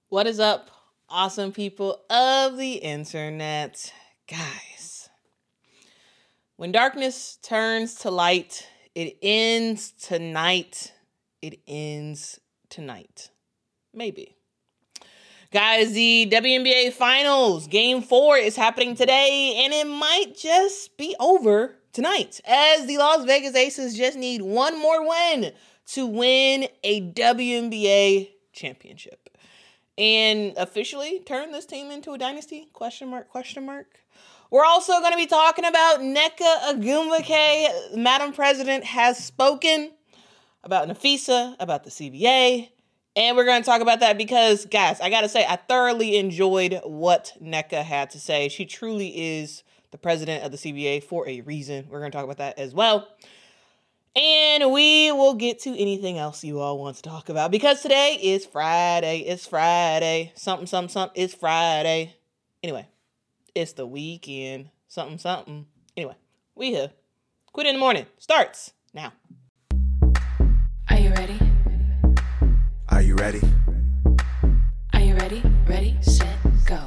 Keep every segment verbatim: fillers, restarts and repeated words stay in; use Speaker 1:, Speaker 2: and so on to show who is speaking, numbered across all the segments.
Speaker 1: What is up, awesome people of the internet? Guys, when darkness turns to light, it ends tonight. It ends tonight. Maybe. Guys, the W N B A Finals Game four is happening today, and it might just be over tonight, as the Las Vegas Aces just need one more win to win a W N B A championship. And officially turn this team into a dynasty? Question mark, question mark. We're also going to be talking about Nneka Ogwumike. Madam President has spoken about Nafisa, about the C B A. And we're going to talk about that because, guys, I got to say, I thoroughly enjoyed what Nneka had to say. She truly is the president of the C B A for a reason. We're going to talk about that as well. And we will get to anything else you all want to talk about because today is Friday. It's Friday. Something, something, something. It's Friday. Anyway, it's the weekend. Something, something. Anyway, we here. Quit in the morning. Starts now.
Speaker 2: Are you ready?
Speaker 3: Are you ready?
Speaker 2: Are you ready? Ready, set, go.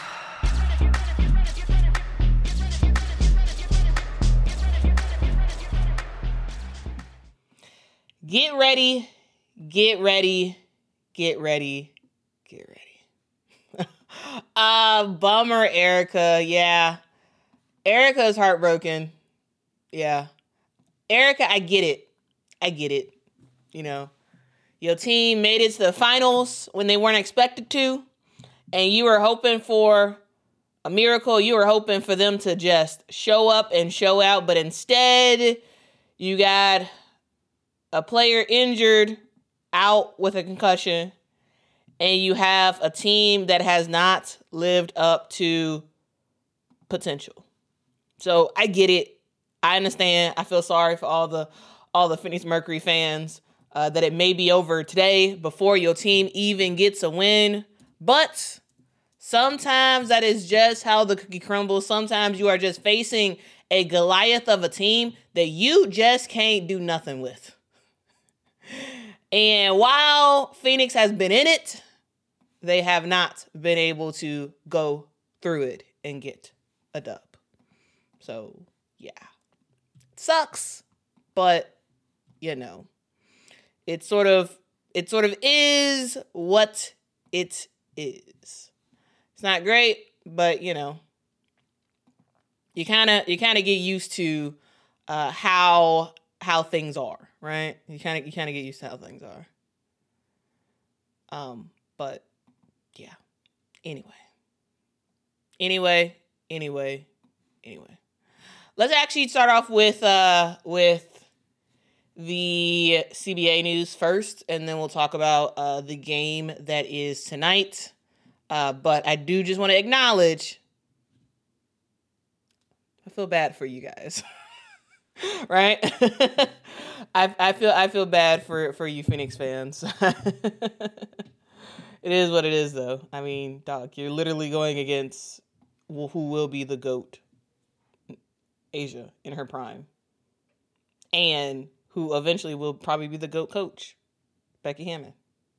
Speaker 1: Get ready, get ready, get ready, get ready. uh, bummer, Erica. Yeah. Erica is heartbroken. Yeah. Erica, I get it. I get it. You know, your team made it to the finals when they weren't expected to, and you were hoping for a miracle. You were hoping for them to just show up and show out, but instead you got a player injured, out with a concussion, and you have a team that has not lived up to potential. So I get it. I understand. I feel sorry for all the all the Phoenix Mercury fans uh, that it may be over today before your team even gets a win. But sometimes that is just how the cookie crumbles. Sometimes you are just facing a Goliath of a team that you just can't do nothing with. And while Phoenix has been in it, they have not been able to go through it and get a dub. So, yeah. It sucks, but, you know, it sort of, it sort of is what it is. It's not great, but, you know, you kind of, you kind of get used to uh, how, how things are. Right? You kind of you kind of get used to how things are. Um, but yeah. Anyway. Anyway, anyway, anyway. Let's actually start off with uh with the C B A news first, and then we'll talk about uh the game that is tonight. Uh, but I do just want to acknowledge I feel bad for you guys. Right? I I feel I feel bad for, for you Phoenix fans. It is what it is, though. I mean, dog, you're literally going against who will be the GOAT, Asia, in her prime, and who eventually will probably be the GOAT coach, Becky Hammon,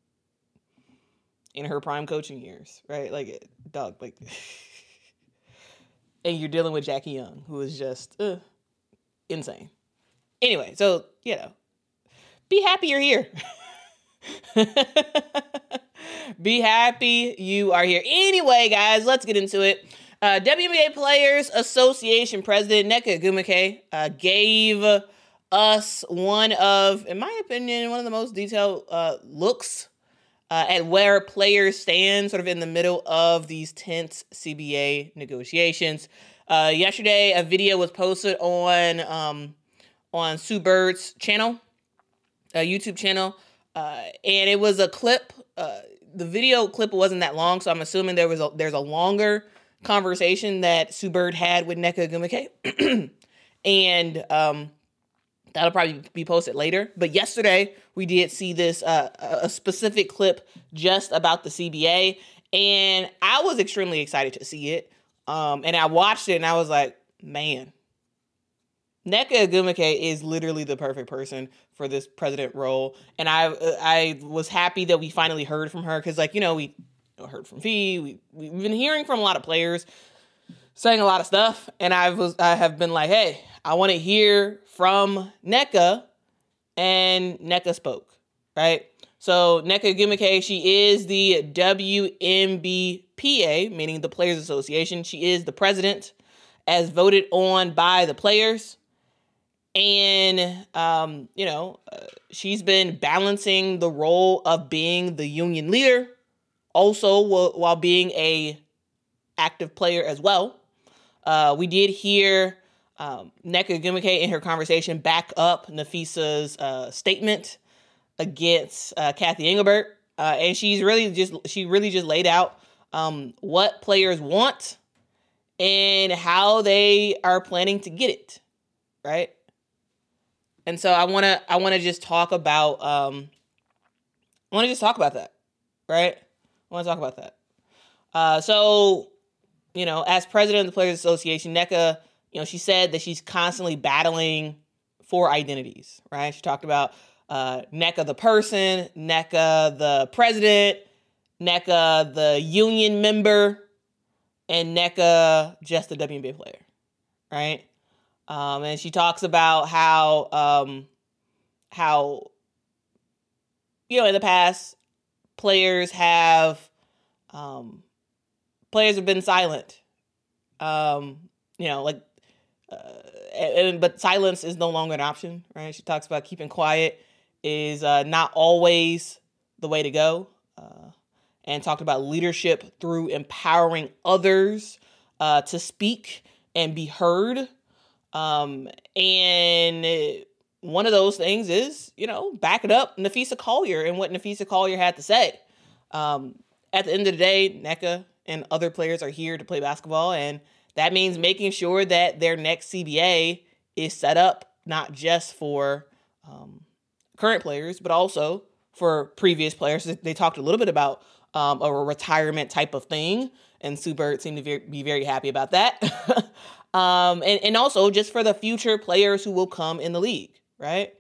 Speaker 1: in her prime coaching years, right? Like, dog, like, and you're dealing with Jackie Young, who is just uh, insane. Anyway, so, you know, be happy you're here. Be happy you are here. Anyway, guys, let's get into it. Uh, W N B A Players Association President Nneka Ogwumike uh, gave us one of, in my opinion, one of the most detailed uh, looks uh, at where players stand sort of in the middle of these tense C B A negotiations. Uh, yesterday, a video was posted on um, on Sue Bird's channel, a YouTube channel, uh, and it was a clip. Uh, the video clip wasn't that long, so I'm assuming there was a, there's a longer conversation that Sue Bird had with Nneka Ogwumike, and um, that'll probably be posted later. But yesterday, we did see this uh, a specific clip just about the C B A, and I was extremely excited to see it. Um, and I watched it, and I was like, man, Nneka Ogwumike is literally the perfect person for this president role. And I I was happy that we finally heard from her because, like, you know, we know, heard from Fee. We we've been hearing from a lot of players saying a lot of stuff, and I was I have been like, hey, I want to hear from Nneka, and Nneka spoke, right? So Nneka Ogwumike, she is the W M B P A, meaning the Players Association. She is the president, as voted on by the players. And, um, you know, uh, she's been balancing the role of being the union leader, also w- while being a active player as well. Uh, we did hear um, Nneka Ogwumike in her conversation back up Nafisa's uh, statement against uh, Cathy Engelbert. Uh, and she's really just, she really just laid out um, what players want and how they are planning to get it, right? And so I want to I want to just talk about um I want to just talk about that, right? I want to talk about that. Uh, so, you know, as president of the Players Association, Nneka, you know, she said that she's constantly battling for identities, right? She talked about uh, Nneka the person, Nneka the president, Nneka the union member, and Nneka just a W N B A player, right? Um, and she talks about how, um, how, you know, in the past, players have, um, players have been silent. Um, you know, like, uh, and, but silence is no longer an option, right? She talks about keeping quiet is uh, not always the way to go. Uh, and talked about leadership through empowering others uh, to speak and be heard. Um, and one of those things is, you know, backing up Napheesa Collier and what Napheesa Collier had to say. Um, at the end of the day, Nneka and other players are here to play basketball, and that means making sure that their next C B A is set up not just for um, current players, but also for previous players. They talked a little bit about um, a retirement type of thing, and Sue Bird seemed to be very happy about that. Um, and, and also just for the future players who will come in the league, right?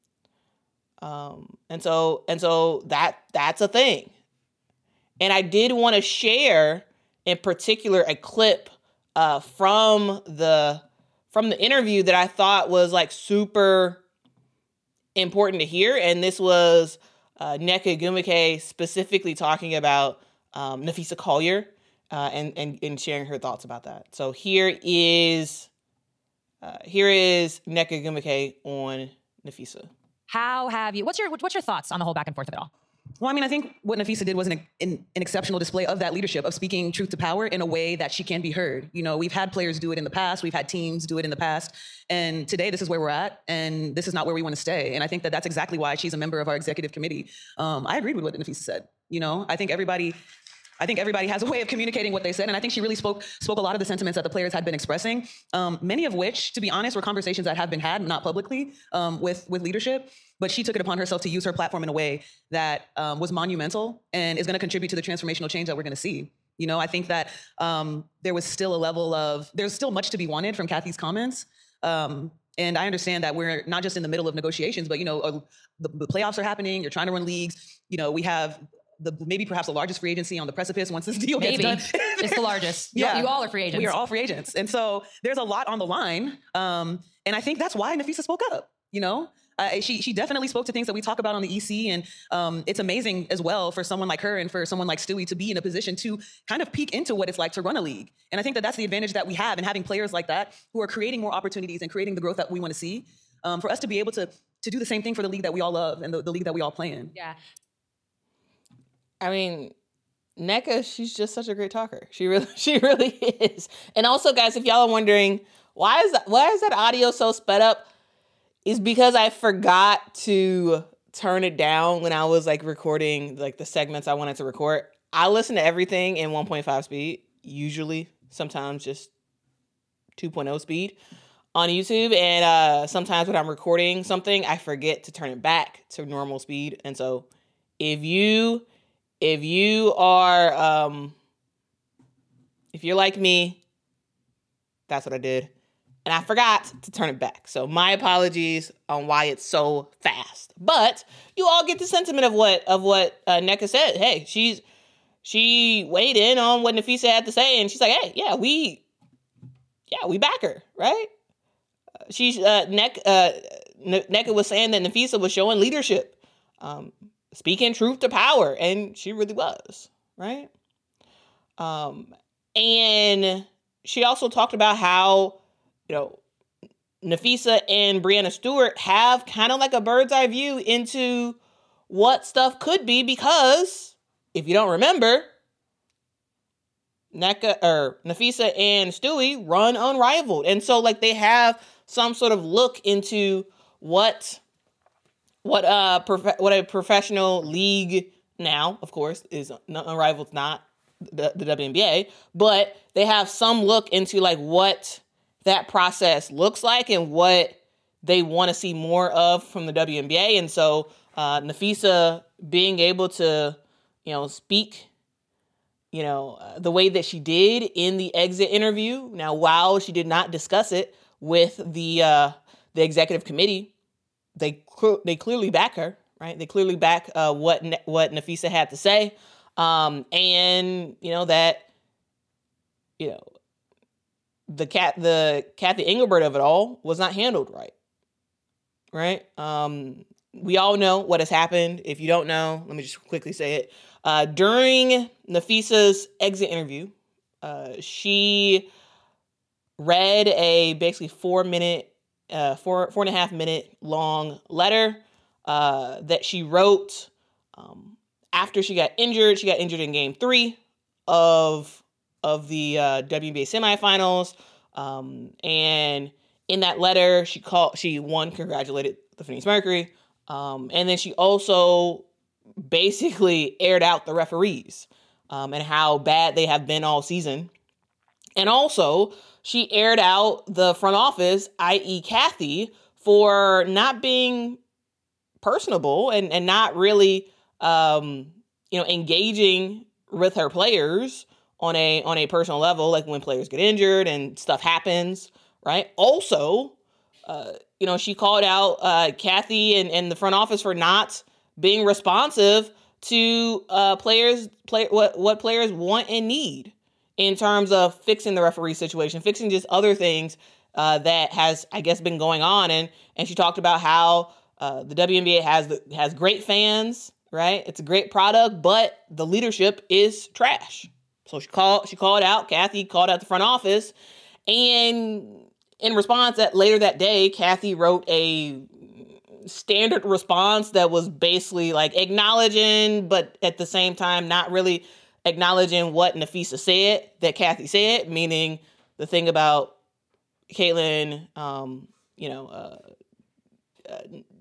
Speaker 1: Um, and so and so that that's a thing. And I did want to share in particular a clip uh, from the from the interview that I thought was like super important to hear. And this was uh, Nneka Ogwumike specifically talking about um, Napheesa Collier. Uh, and, and and sharing her thoughts about that. So here is uh, here is Nneka Ogwumike on Napheesa.
Speaker 4: How have you? What's your what's your thoughts on the whole back and forth of it all?
Speaker 5: Well, I mean, I think what Napheesa did was an, an, an exceptional display of that leadership, of speaking truth to power in a way that she can be heard. You know, we've had players do it in the past. We've had teams do it in the past. And today, this is where we're at. And this is not where we want to stay. And I think that that's exactly why she's a member of our executive committee. Um, I agreed with what Napheesa said. You know, I think everybody... I think everybody has a way of communicating what they said, and I think she really spoke spoke a lot of the sentiments that the players had been expressing, um, many of which, to be honest, were conversations that have been had, not publicly, um, with, with leadership, but she took it upon herself to use her platform in a way that um, was monumental and is going to contribute to the transformational change that we're going to see. You know, I think that um, there was still a level of, there's still much to be wanted from Cathy's comments. Um, and I understand that we're not just in the middle of negotiations, but, you know, uh, the, the playoffs are happening, you're trying to run leagues, you know, we have the maybe perhaps the largest free agency on the precipice once this deal
Speaker 4: Maybe.
Speaker 5: gets done.
Speaker 4: It's the largest.
Speaker 5: Yeah.
Speaker 4: You, you all are free agents.
Speaker 5: We are all free agents. And so there's a lot on the line. Um, and I think that's why Napheesa spoke up, you know? Uh, she she definitely spoke to things that we talk about on the E C, and um, it's amazing as well for someone like her and for someone like Stewie to be in a position to kind of peek into what it's like to run a league. And I think that that's the advantage that we have in having players like that who are creating more opportunities and creating the growth that we want to see, um, for us to be able to to do the same thing for the league that we all love and the, the league that we all play in.
Speaker 4: Yeah.
Speaker 1: I mean, Nneka, she's just such a great talker. She really, she really is. And also, guys, if y'all are wondering why is that, why is that audio so sped up, is because I forgot to turn it down when I was like recording like the segments I wanted to record. I listen to everything in one point five speed, usually, sometimes just two point oh speed on YouTube. And uh, sometimes when I'm recording something, I forget to turn it back to normal speed. And so if you If you are, um, if you're like me, that's what I did. And I forgot to turn it back. So my apologies on why it's so fast. But you all get the sentiment of what of what uh, Nneka said. Hey, she's she weighed in on what Nafisa had to say, and she's like, "Hey, yeah, we, yeah, we back her, right?" She's uh, Neck uh, Nneka was saying that Nafisa was showing leadership, um, speaking truth to power, and she really was, right? Um, and she also talked about how, you know, Nafisa and Breanna Stewart have kind of like a bird's eye view into what stuff could be, because if you don't remember, Nneka or Nafisa and Stewie run Unrivaled, and so like they have some sort of look into what what uh prof- what a professional league now, of course, is. Unrivaled's not the, the W N B A, but they have some look into like what that process looks like and what they want to see more of from the W N B A. And so uh, Nafisa being able to, you know, speak, you know, uh, the way that she did in the exit interview. Now, while she did not discuss it with the uh, the executive committee, they cl- they clearly back her, right? They clearly back uh, what ne- what Nafisa had to say, um, and you know that, you know, the cat the Cathy Engelbert of it all was not handled right, right? Um, we all know what has happened. If you don't know, let me just quickly say it. Uh, during Nafisa's exit interview, uh, she read a basically four minute, uh, four four and a half minute long letter uh, that she wrote um, after she got injured. She got injured in Game Three of of the uh, W N B A semifinals, um, and in that letter, she called she one congratulated the Phoenix Mercury, um, and then she also basically aired out the referees um, and how bad they have been all season. And also, she aired out the front office, that is. Cathy, for not being personable and, and not really, um, you know, engaging with her players on a on a personal level, like when players get injured and stuff happens, right? Also, uh, you know, she called out uh, Cathy and, and the front office for not being responsive to uh, players, play what what players want and need in terms of fixing the referee situation, fixing just other things uh, that has, I guess, been going on. And and she talked about how uh, the W N B A has the, has great fans, right? It's a great product, but the leadership is trash. So she called she called out, Cathy called out the front office, and in response, that later that day, Cathy wrote a standard response that was basically like acknowledging, but at the same time not really acknowledging what Nafisa said that Cathy said, meaning the thing about Caitlin, um, you know, uh, uh,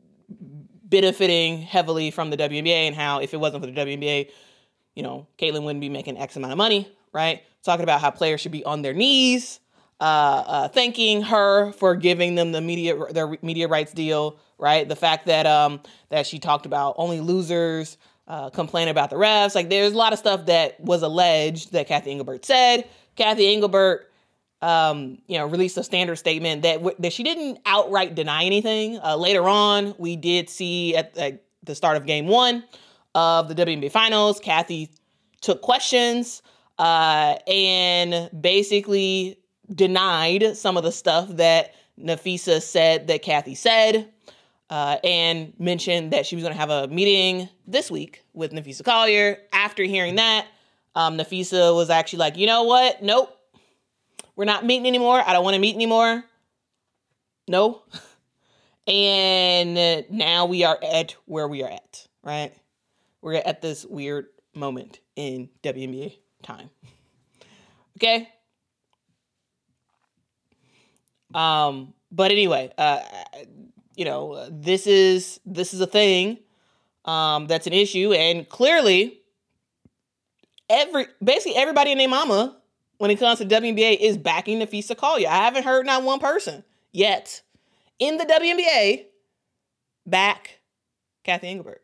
Speaker 1: benefiting heavily from the W N B A, and how if it wasn't for the W N B A, you know, Caitlin wouldn't be making X amount of money, right? Talking about how players should be on their knees, uh, uh, thanking her for giving them the media their media rights deal, right? The fact that um, that she talked about only losers uh, complain about the refs. Like, there's a lot of stuff that was alleged that Cathy Engelbert said. Cathy Engelbert, um, you know, released a standard statement that w- that she didn't outright deny anything. Uh, later on, we did see at, at the start of Game One of the W N B A Finals, Cathy took questions uh, and basically denied some of the stuff that Nafisa said that Cathy said, uh, and mentioned that she was going to have a meeting this week with Nafisa Collier. After hearing that, um, Nafisa was actually like, you know what? Nope. We're not meeting anymore. I don't want to meet anymore. No. And now we are at where we are at, right? We're at this weird moment in W N B A time. Okay? Um, but anyway, uh, you know, this is this is a thing um, that's an issue, and clearly, every basically everybody and their mama, when it comes to W N B A, is backing Nafisa Collier. I haven't heard not one person yet in the W N B A back Cathy Engelbert.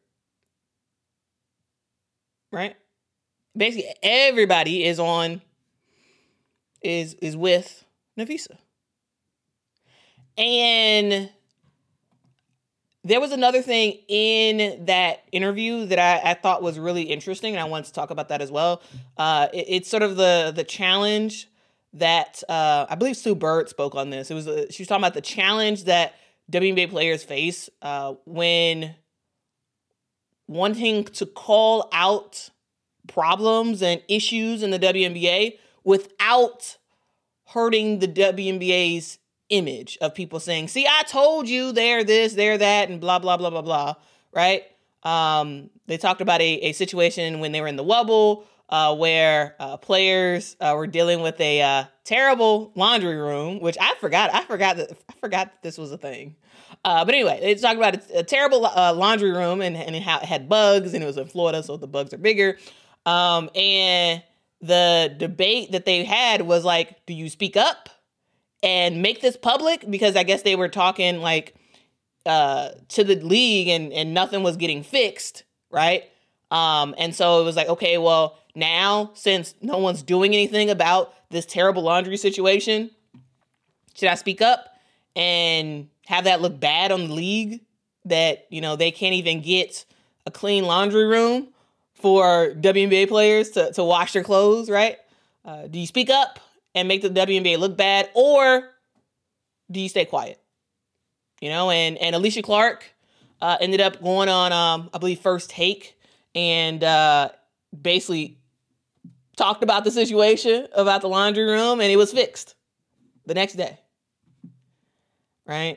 Speaker 1: Right? Basically, everybody is on is is with Nafisa. And there was another thing in that interview that I, I thought was really interesting, and I wanted to talk about that as well. Uh, it, it's sort of the the challenge that uh, I believe Sue Bird spoke on this. It was a, she was talking about the challenge that W N B A players face uh, when wanting to call out problems and issues in the W N B A without hurting the W N B A's image of people saying, see, I told you they're this, they're that, and blah, blah, blah, blah, blah, right? Um, they talked about a, a situation when they were in the Wubble uh, where uh, players uh, were dealing with a uh, terrible laundry room, which I forgot. I forgot that I forgot that this was a thing. Uh, but anyway, they talked about a, a terrible uh, laundry room and, and it had bugs, and it was in Florida, so the bugs are bigger. Um, and the debate that they had was like, do you speak up and make this public? Because I guess they were talking like uh, to the league and, and nothing was getting fixed, right? Um, and so it was like, okay, well, now since no one's doing anything about this terrible laundry situation, should I speak up and have that look bad on the league that, you know, they can't even get a clean laundry room for W N B A players to, to wash their clothes, right? Uh, do you speak up and make the W N B A look bad, or do you stay quiet? You know, and, and Alicia Clark uh, ended up going on, um, I believe, First Take, and uh, basically talked about the situation, about the laundry room, and it was fixed the next day, right?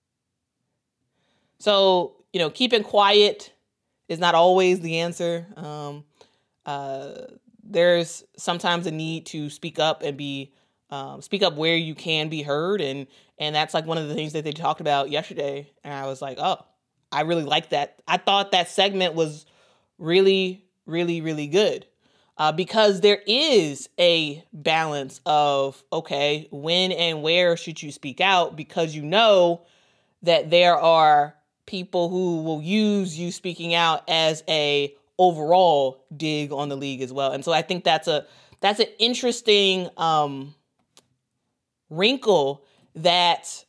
Speaker 1: So, you know, keeping quiet is not always the answer. Um, uh, there's sometimes a need to speak up and be um, speak up where you can be heard, and and that's like one of the things that they talked about yesterday. And I was like, oh, I really like that. I thought that segment was really, really, really good uh, because there is a balance of, okay, when and where should you speak out, because you know that there are people who will use you speaking out as a overall dig on the league as well. And so I think that's a that's an interesting um, wrinkle that,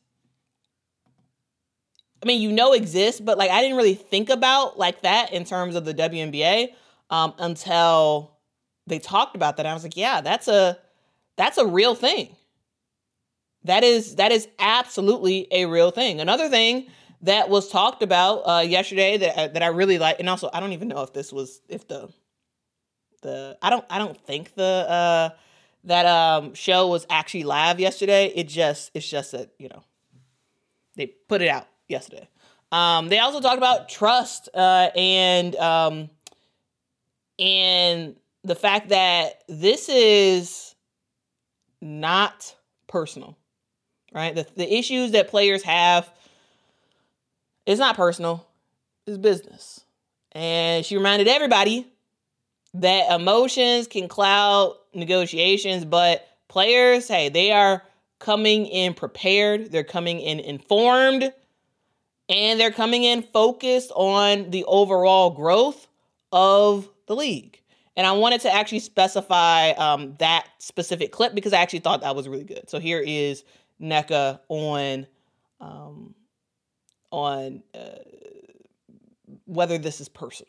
Speaker 1: I mean, you know exists, but like I didn't really think about like that in terms of the W N B A um, until they talked about that. And I was like, yeah, that's a that's a real thing. That is that is absolutely a real thing. Another thing that was talked about uh, yesterday that that I really like, and also I don't even know if this was if the the I don't I don't think the uh, that um, show was actually live yesterday. It just it's just that, you know, they put it out yesterday. Um, they also talked about trust uh, and um, and the fact that this is not personal, right? The the issues that players have. It's not personal, it's business. And she reminded everybody that emotions can cloud negotiations, but players, hey, they are coming in prepared, they're coming in informed, and they're coming in focused on the overall growth of the league. And I wanted to actually specify um, that specific clip because I actually thought that was really good. So here is Nneka on... Um, on uh, whether this is personal.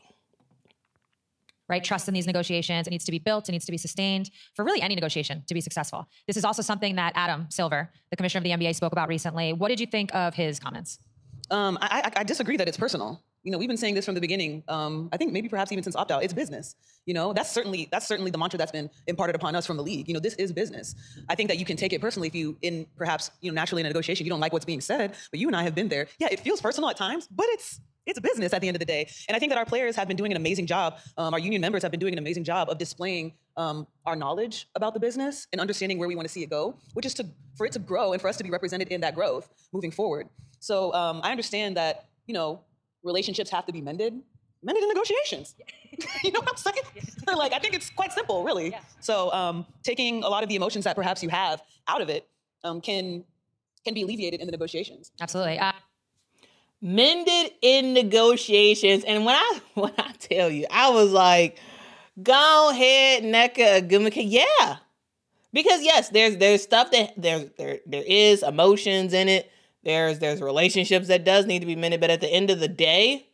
Speaker 4: Right? Trust in these negotiations. It needs to be built. It needs to be sustained for really any negotiation to be successful. This is also something that Adam Silver, the commissioner of the N B A, spoke about recently. What did you think of his comments?
Speaker 5: Um, I, I, I disagree that it's personal. You know, we've been saying this from the beginning. Um, I think maybe perhaps even since opt-out, it's business. You know, that's certainly that's certainly the mantra that's been imparted upon us from the league. You know, this is business. I think that you can take it personally if you, in perhaps, you know, naturally in a negotiation, you don't like what's being said, but you and I have been there. Yeah, it feels personal at times, but it's it's business at the end of the day. And I think that our players have been doing an amazing job. Um, our union members have been doing an amazing job of displaying um, our knowledge about the business and understanding where we want to see it go, which is to for it to grow and for us to be represented in that growth moving forward. So um, I understand that, you know, relationships have to be mended, mended in negotiations. You know what I'm saying? Yeah. Like, I think it's quite simple, really. Yeah. So um, taking a lot of the emotions that perhaps you have out of it um, can can be alleviated in the negotiations.
Speaker 4: Absolutely. Uh-
Speaker 1: Mended in negotiations. And when I when I tell you, I was like, go ahead, Nneka Ogwumike. Yeah. Because yes, there's there's stuff that there there there is emotions in it. There's there's relationships that does need to be mended, but at the end of the day,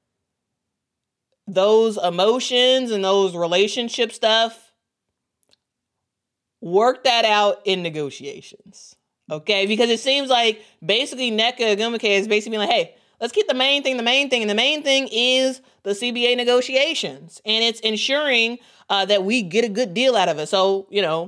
Speaker 1: those emotions and those relationship stuff, work that out in negotiations. Okay? Because it seems like basically Nneka Ogwumike is basically being like, hey, let's keep the main thing the main thing. And the main thing is the C B A negotiations. And it's ensuring uh, that we get a good deal out of it. So, you know,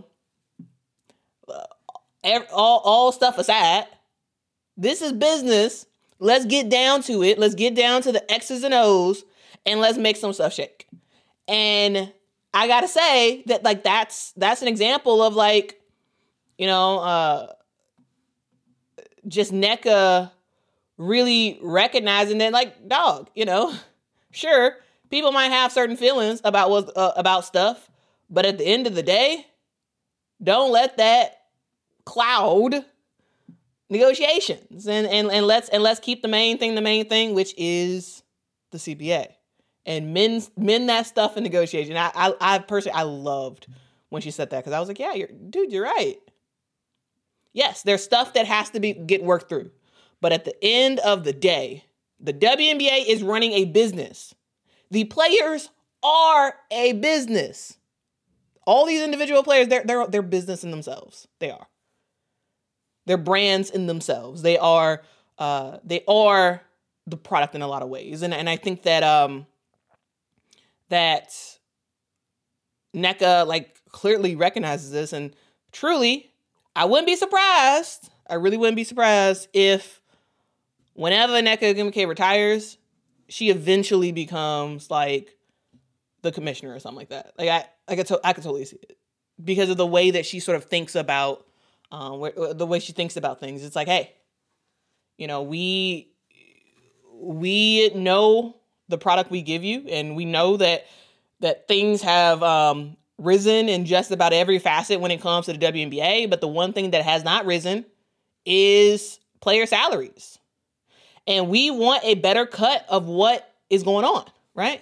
Speaker 1: uh, all, all stuff aside, this is business. Let's get down to it. Let's get down to the X's and O's and let's make some stuff shake. And I got to say that, like, that's that's an example of, like, you know, uh, just Nneka really recognizing that, like, dog, you know, sure, people might have certain feelings about what uh, about stuff, but at the end of the day, don't let that cloud negotiations, and and and let's and let's keep the main thing the main thing, which is the C B A, and mend mend that stuff in negotiation. I I, I personally I loved when she said that, because I was like, yeah, you're, dude, you're right. Yes, there's stuff that has to be get worked through. But at the end of the day, the W N B A is running a business. The players are a business. All these individual players, they're, they're, they're business in themselves. They are. They're brands in themselves. They are uh, they are the product in a lot of ways. And, and I think that um, that Nneka, like, clearly recognizes this. And truly, I wouldn't be surprised. I really wouldn't be surprised if whenever Nneka Ogwumike retires, she eventually becomes, like, the commissioner or something like that. Like, I, I could, to, I could totally see it because of the way that she sort of thinks about, um, where, the way she thinks about things. It's like, hey, you know, we, we know the product we give you, and we know that that things have um, risen in just about every facet when it comes to the W N B A. But the one thing that has not risen is player salaries. And we want a better cut of what is going on, right?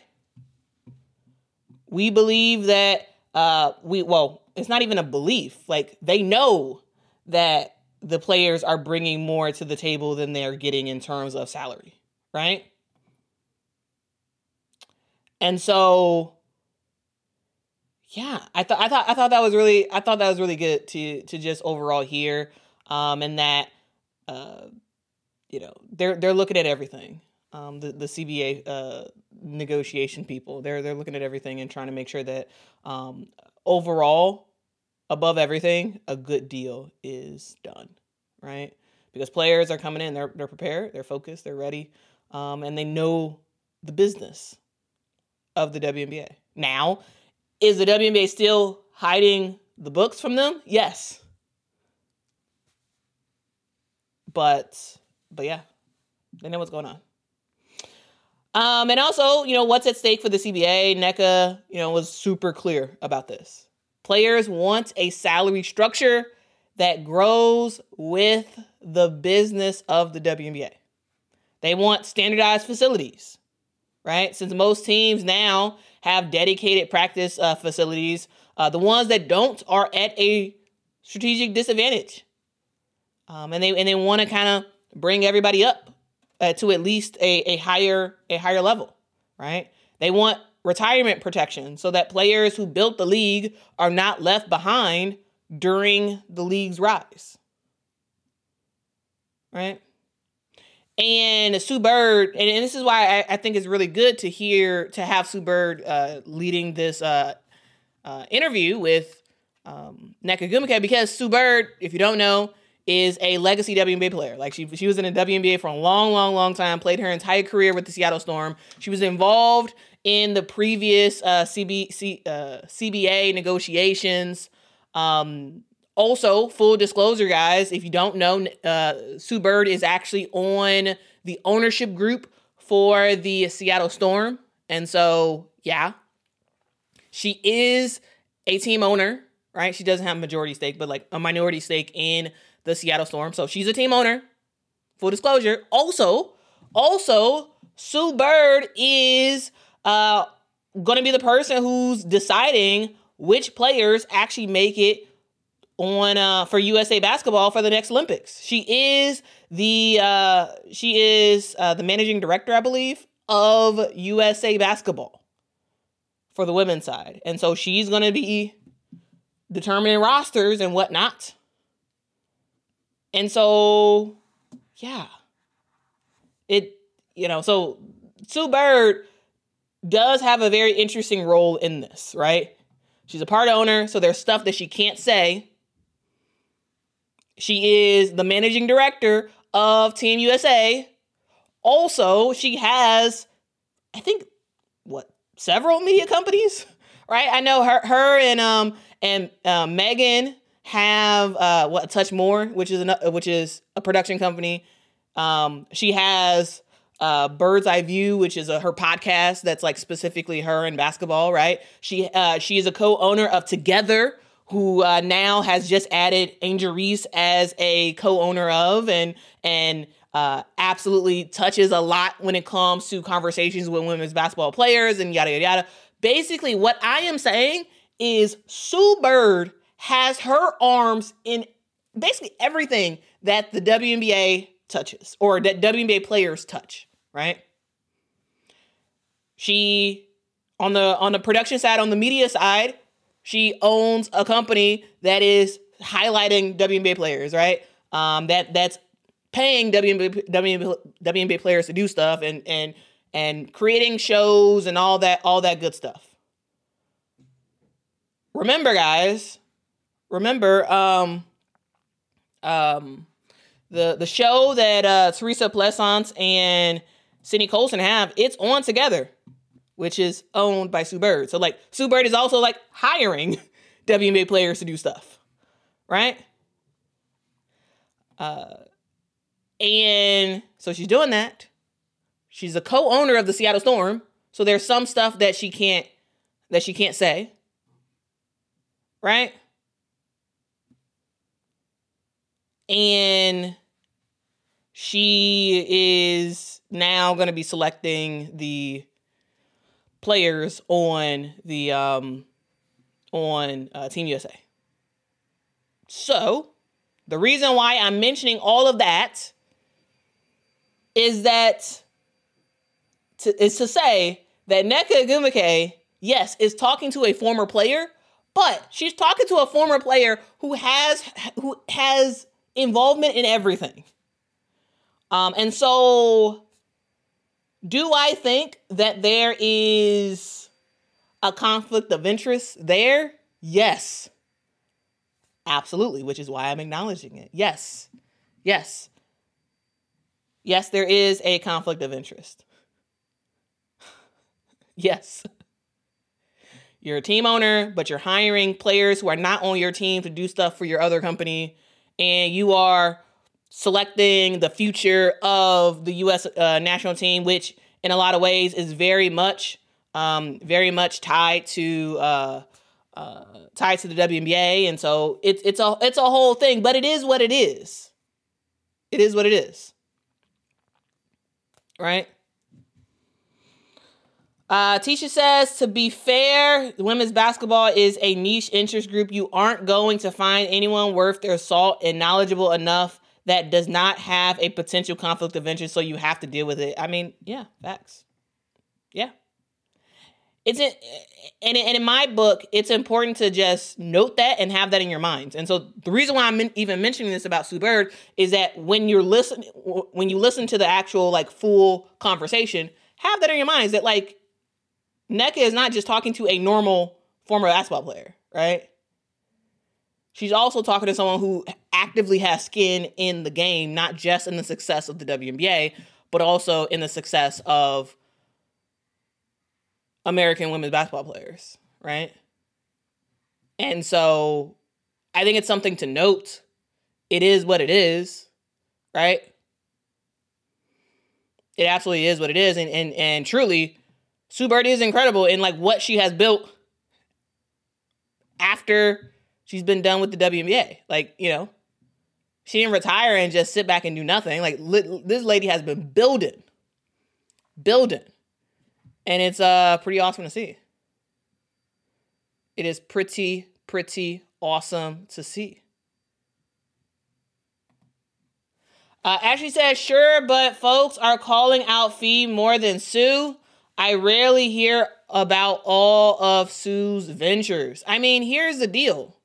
Speaker 1: We believe that uh, we, well, it's not even a belief. Like, they know that the players are bringing more to the table than they're getting in terms of salary, right? And so, yeah, I thought I thought I thought that was really I thought that was really good to to just overall hear, um, and that uh, you know they're they're looking at everything. Um, the the C B A uh, negotiation people, they're they're looking at everything and trying to make sure that um, overall, above everything, a good deal is done, right? Because players are coming in, they're they're prepared, they're focused, they're ready, um, and they know the business of the W N B A. Now, is the W N B A still hiding the books from them? Yes. But, but yeah, they know what's going on. Um, and also, you know, what's at stake for the C B A? Nneka, you know, was super clear about this. Players want a salary structure that grows with the business of the W N B A. They want standardized facilities, right? Since most teams now have dedicated practice uh, facilities, uh, the ones that don't are at a strategic disadvantage. Um, and they and they want to kind of bring everybody up uh, to at least a, a higher a higher level, right? They want retirement protection so that players who built the league are not left behind during the league's rise, right? And Sue Bird, and, and this is why I, I think it's really good to hear, to have Sue Bird uh, leading this uh, uh, interview with um, Nneka Ogwumike, because Sue Bird, if you don't know, is a legacy W N B A player. Like, she she was in the W N B A for a long, long, long time, played her entire career with the Seattle Storm. She was involved in the previous uh, C B, C, uh, C B A negotiations. Um, Also, full disclosure, guys, if you don't know, uh, Sue Bird is actually on the ownership group for the Seattle Storm. And so, yeah, she is a team owner, right? She doesn't have a majority stake, but like a minority stake in the Seattle Storm. So she's a team owner, full disclosure. Also, also, Sue Bird is uh, going to be the person who's deciding which players actually make it on uh, for U S A Basketball for the next Olympics. She is the uh, she is uh, the managing director, I believe, of U S A Basketball for the women's side, and so she's going to be determining rosters and whatnot. And so, yeah, it you know so Sue Bird does have a very interesting role in this, right? She's a part owner, so there's stuff that she can't say. She is the managing director of Team U S A. Also, she has, I think, what, several media companies, right? I know her, her and um and uh, Megan have uh what Touch More, which is an, which is a production company. Um, she has uh Bird's Eye View, which is a, her podcast that's like specifically her and basketball, right? She uh she is a co-owner of Together, who uh, now has just added Angel Reese as a co-owner of, and and uh, absolutely touches a lot when it comes to conversations with women's basketball players and yada, yada, yada. Basically, what I am saying is Sue Bird has her arms in basically everything that the W N B A touches, or that W N B A players touch, right? She, on the on the production side, on the media side, she owns a company that is highlighting W N B A players, right? Um, that that's paying W N B A, W N B A, W N B A players to do stuff and and and creating shows and all that all that good stuff. Remember, guys, remember um, um, the the show that uh, Teresa Pleasance and Sydney Colson have. It's on Together, which is owned by Sue Bird. So, like, Sue Bird is also, like, hiring W N B A players to do stuff, right? Uh, and so she's doing that. She's a co-owner of the Seattle Storm. So there's some stuff that she can't, that she can't say, right? And she is now going to be selecting the players on the um on uh, Team U S A. So the reason why I'm mentioning all of that is that to, is to say that Nneka Ogwumike, yes, is talking to a former player, but she's talking to a former player who has who has involvement in everything. Um, and so, do I think that there is a conflict of interest there? Yes. Absolutely, which is why I'm acknowledging it. Yes. Yes. Yes, there is a conflict of interest. Yes. You're a team owner, but you're hiring players who are not on your team to do stuff for your other company, and you are selecting the future of the U S uh, national team, which in a lot of ways is very much, um, very much tied to uh, uh, tied to the W N B A, and so it's it's a it's a whole thing. But it is what it is. It is what it is, right? Uh, Tisha says, to be fair, women's basketball is a niche interest group. You aren't going to find anyone worth their salt and knowledgeable enough that does not have a potential conflict of interest, so you have to deal with it. I mean, yeah, facts. Yeah. It's in, and, and in my book, it's important to just note that and have that in your minds. And so the reason why I'm even mentioning this about Sue Bird is that when you're listening, when you listen to the actual like full conversation, have that in your minds that like Nneka is not just talking to a normal former basketball player, right? She's also talking to someone who actively has skin in the game, not just in the success of the W N B A, but also in the success of American women's basketball players, right? And so I think it's something to note. It is what it is, right? It absolutely is what it is. And and and truly, Sue Bird is incredible in like what she has built after she's been done with the W N B A. Like, you know, she didn't retire and just sit back and do nothing. Like, li- this lady has been building, building. And it's uh pretty awesome to see. It is pretty, pretty awesome to see. Uh, Ashley says, sure, but folks are calling out Fee more than Sue. I rarely hear about all of Sue's ventures. I mean, here's the deal.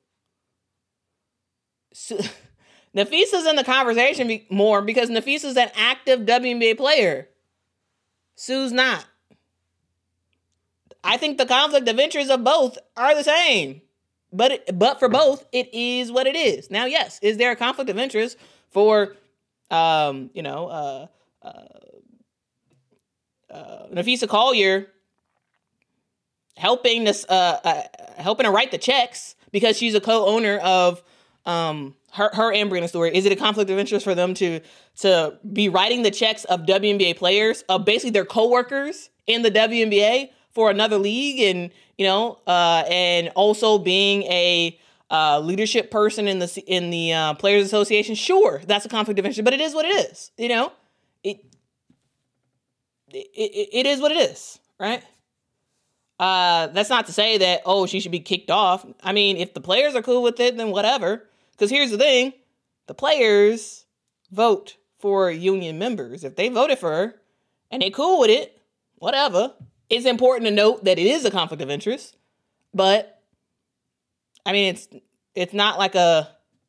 Speaker 1: Sue, Nafisa's in the conversation be- more because Nafisa's an active W N B A player. Sue's not. I think the conflict of interest of both are the same. But it, but for both, it is what it is. Now, yes, is there a conflict of interest for, um, you know, uh, uh, uh, Napheesa Collier helping this, uh, uh, helping her write the checks because she's a co-owner of um, her her and Breanna Stewart? Is it a conflict of interest for them to to be writing the checks of W N B A players, of basically their coworkers in the W N B A for another league, and you know, uh, and also being a uh, leadership person in the in the uh, Players Association? Sure, that's a conflict of interest, but it is what it is. You know, it it it, it is what it is, right? Uh, that's not to say that, oh, she should be kicked off. I mean, if the players are cool with it, then whatever. Because here's the thing, the players vote for union members. If they voted for her and they cool with it, whatever. It's important to note that it is a conflict of interest, but I mean, it's it's not like a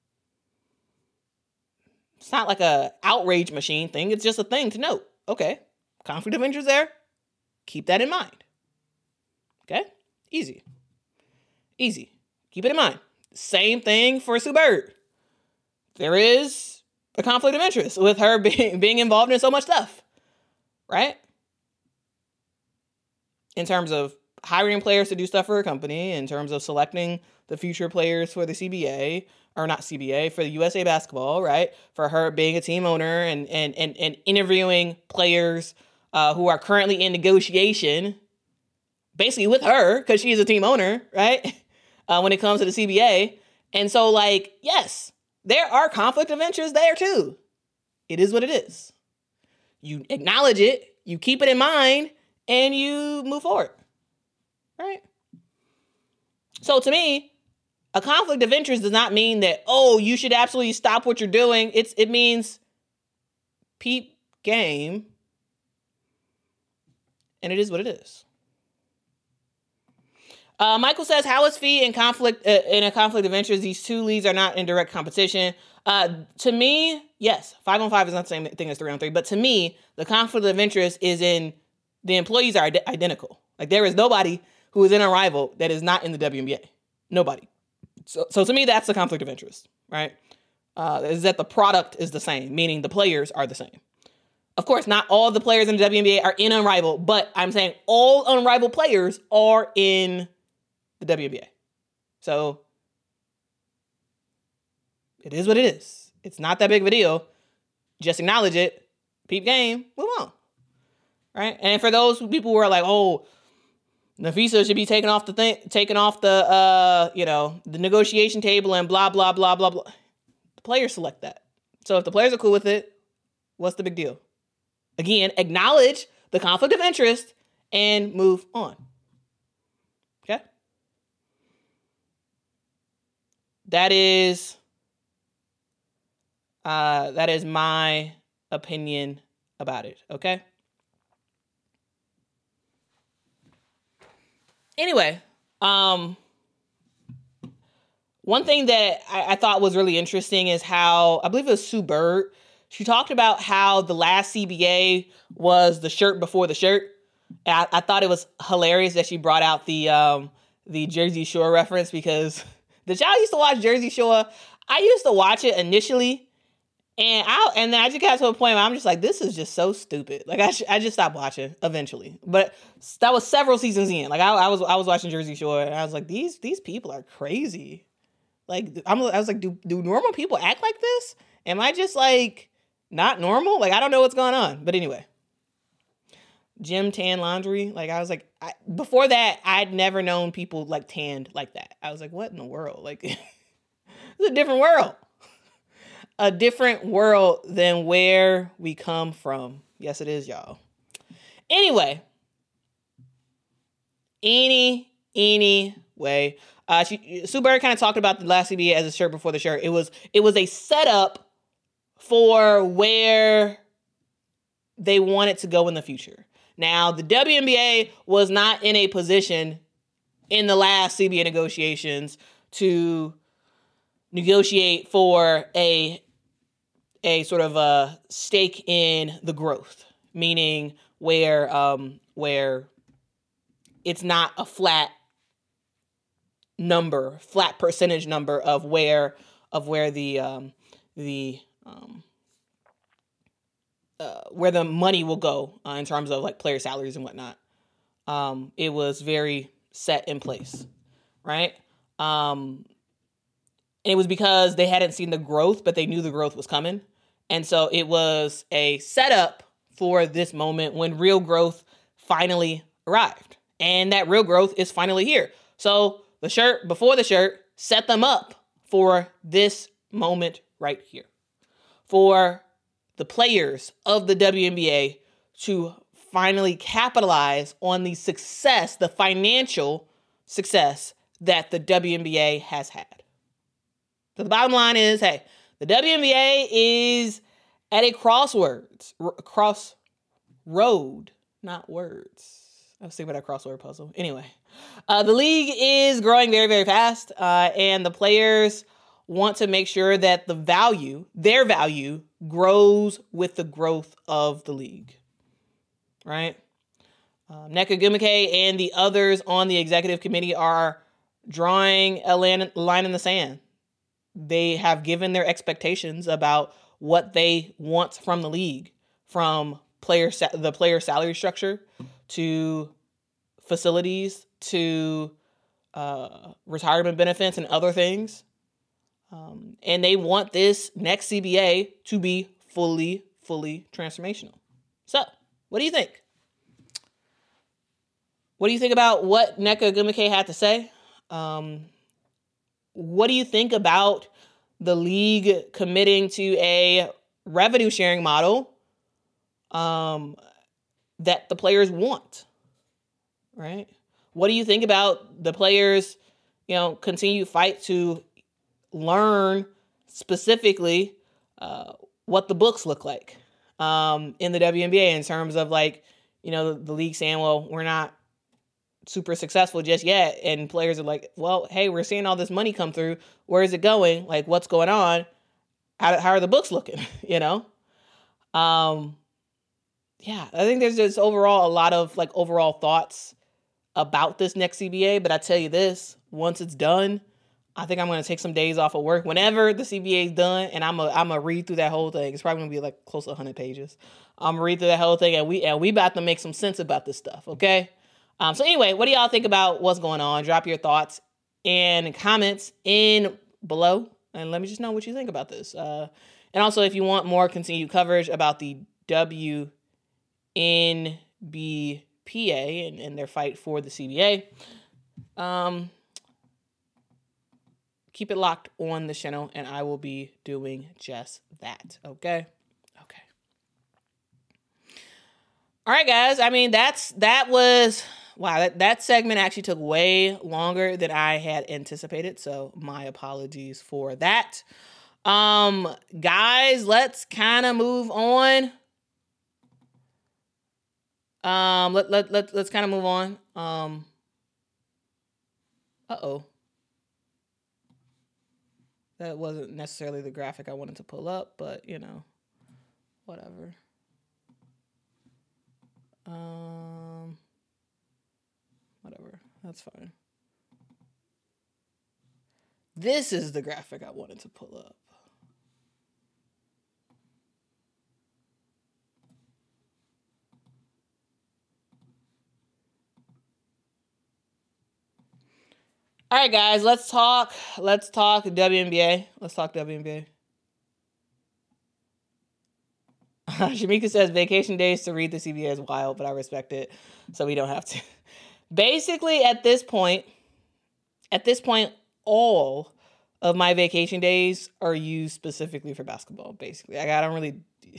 Speaker 1: it's not like a outrage machine thing. It's just a thing to note. Okay, conflict of interest there. Keep that in mind. Okay, easy, easy. Keep it in mind. Same thing for Sue Bird. There is a conflict of interest with her being being involved in so much stuff, right? In terms of hiring players to do stuff for her company, in terms of selecting the future players for the C B A, or not C B A, for the U S A Basketball, right? For her being a team owner and and and, and interviewing players uh, who are currently in negotiation, basically with her, because she's a team owner, right? Uh, when it comes to the C B A. And so, like, yes, there are conflict of interest there too. It is what it is. You acknowledge it, you keep it in mind, and you move forward, right? So to me, a conflict of interest does not mean that, oh, you should absolutely stop what you're doing. It's It means peep game, and it is what it is. Uh, Michael says, how is Fee in conflict uh, in a conflict of interest? These two leagues are not in direct competition. Uh, to me, yes, five on five is not the same thing as three on three. But to me, the conflict of interest is in the employees are ide- identical. Like, there is nobody who is in a rival that is not in the W N B A. Nobody. So, so to me, that's the conflict of interest, right? Uh, is that the product is the same, meaning the players are the same. Of course, not all of the players in the W N B A are in Unrivaled, but I'm saying all Unrivaled players are in the W N B A. So it is what it is. It's not that big of a deal. Just acknowledge it. Peep game. Move on. Right? And for those people who are like, oh, Napheesa should be taken off the thing, taken off the uh, you know, the negotiation table and blah, blah, blah, blah, blah. The players select that. So if the players are cool with it, what's the big deal? Again, acknowledge the conflict of interest and move on. Okay? That is, uh, that is my opinion about it. Okay. Anyway, um, one thing that I, I thought was really interesting is how, I believe it was Sue Bird, she talked about how the last C B A was the shirt before the shirt. I, I thought it was hilarious that she brought out the um, the Jersey Shore reference, because did y'all used to watch Jersey Shore? I used to watch it initially, and I and then I just got to a point where I'm just like, this is just so stupid. Like I sh- I just stopped watching eventually. But that was several seasons in. Like I, I was I was watching Jersey Shore, and I was like, these these people are crazy. Like I'm I was like, do do normal people act like this? Am I just like not normal? Like I don't know what's going on. But anyway. Gym tan laundry. Like I was like, I, before that, I'd never known people like tanned like that. I was like, what in the world? Like, it's a different world. A different world than where we come from. Yes, it is, y'all. Anyway. Any, anyway. Uh, she, Sue Bird kind of talked about the last C B A as a shirt before the shirt. It was, it was a setup for where they want it to go in the future. Now, the W N B A was not in a position in the last C B A negotiations to negotiate for a a sort of a stake in the growth, meaning where um, where it's not a flat number, flat percentage number of where of where the um, the um, uh, where the money will go uh, in terms of like player salaries and whatnot. Um, it was very set in place, right? Um, and it was because they hadn't seen the growth, but they knew the growth was coming. And so it was a setup for this moment when real growth finally arrived. And that real growth is finally here. So the shirt before the shirt set them up for this moment right here. For the players of the W N B A to finally capitalize on the success, the financial success that the W N B A has had. So the bottom line is, hey, the W N B A is at a crosswords, r- crossroad, not words. I was thinking about that crossword puzzle. Anyway, uh, the league is growing very, very fast, uh, and the players want to make sure that the value, their value, grows with the growth of the league, right? Uh, Nneka Ogwumike and the others on the executive committee are drawing a line in the sand. They have given their expectations about what they want from the league, from player sa- the player salary structure to facilities to uh, retirement benefits and other things. Um, and they want this next C B A to be fully, fully transformational. So, what do you think? What do you think about what Nneka Ogwumike had to say? Um, what do you think about the league committing to a revenue sharing model um, that the players want, right? What do you think about the players, you know, continue fight to learn specifically uh, what the books look like um, in the W N B A in terms of like, you know, the, the league saying, well, we're not super successful just yet. And players are like, well, hey, we're seeing all this money come through. Where is it going? Like, what's going on? How, how are the books looking? you know? Um, yeah, I think there's just overall a lot of like overall thoughts about this next C B A. But I tell you this, once it's done, I think I'm going to take some days off of work whenever the C B A is done. And I'm a, I'm going to read through that whole thing. It's probably going to be like close to one hundred pages. I'm going to read through that whole thing and we, and we about to make some sense about this stuff. Okay. Um, so anyway, what do y'all think about what's going on? Drop your thoughts and comments in below and let me just know what you think about this. Uh, and also if you want more continued coverage about the W N B P A and, and their fight for the C B A, um, keep it locked on the channel and I will be doing just that. Okay. Okay. All right, guys. I mean, that's, that was, wow, that, that segment actually took way longer than I had anticipated. So my apologies for that. Um, guys, let's kind of move on. Um, let, let, let, let's kind of move on. Um, uh-oh. That wasn't necessarily the graphic I wanted to pull up, but you know, whatever. Um, whatever, that's fine. This is the graphic I wanted to pull up. All right, guys, let's talk. Let's talk W N B A. Let's talk W N B A. Shamika says vacation days to read the C B A is wild, but I respect it, so we don't have to. Basically, at this point, at this point, all of my vacation days are used specifically for basketball. Basically, like, I don't really,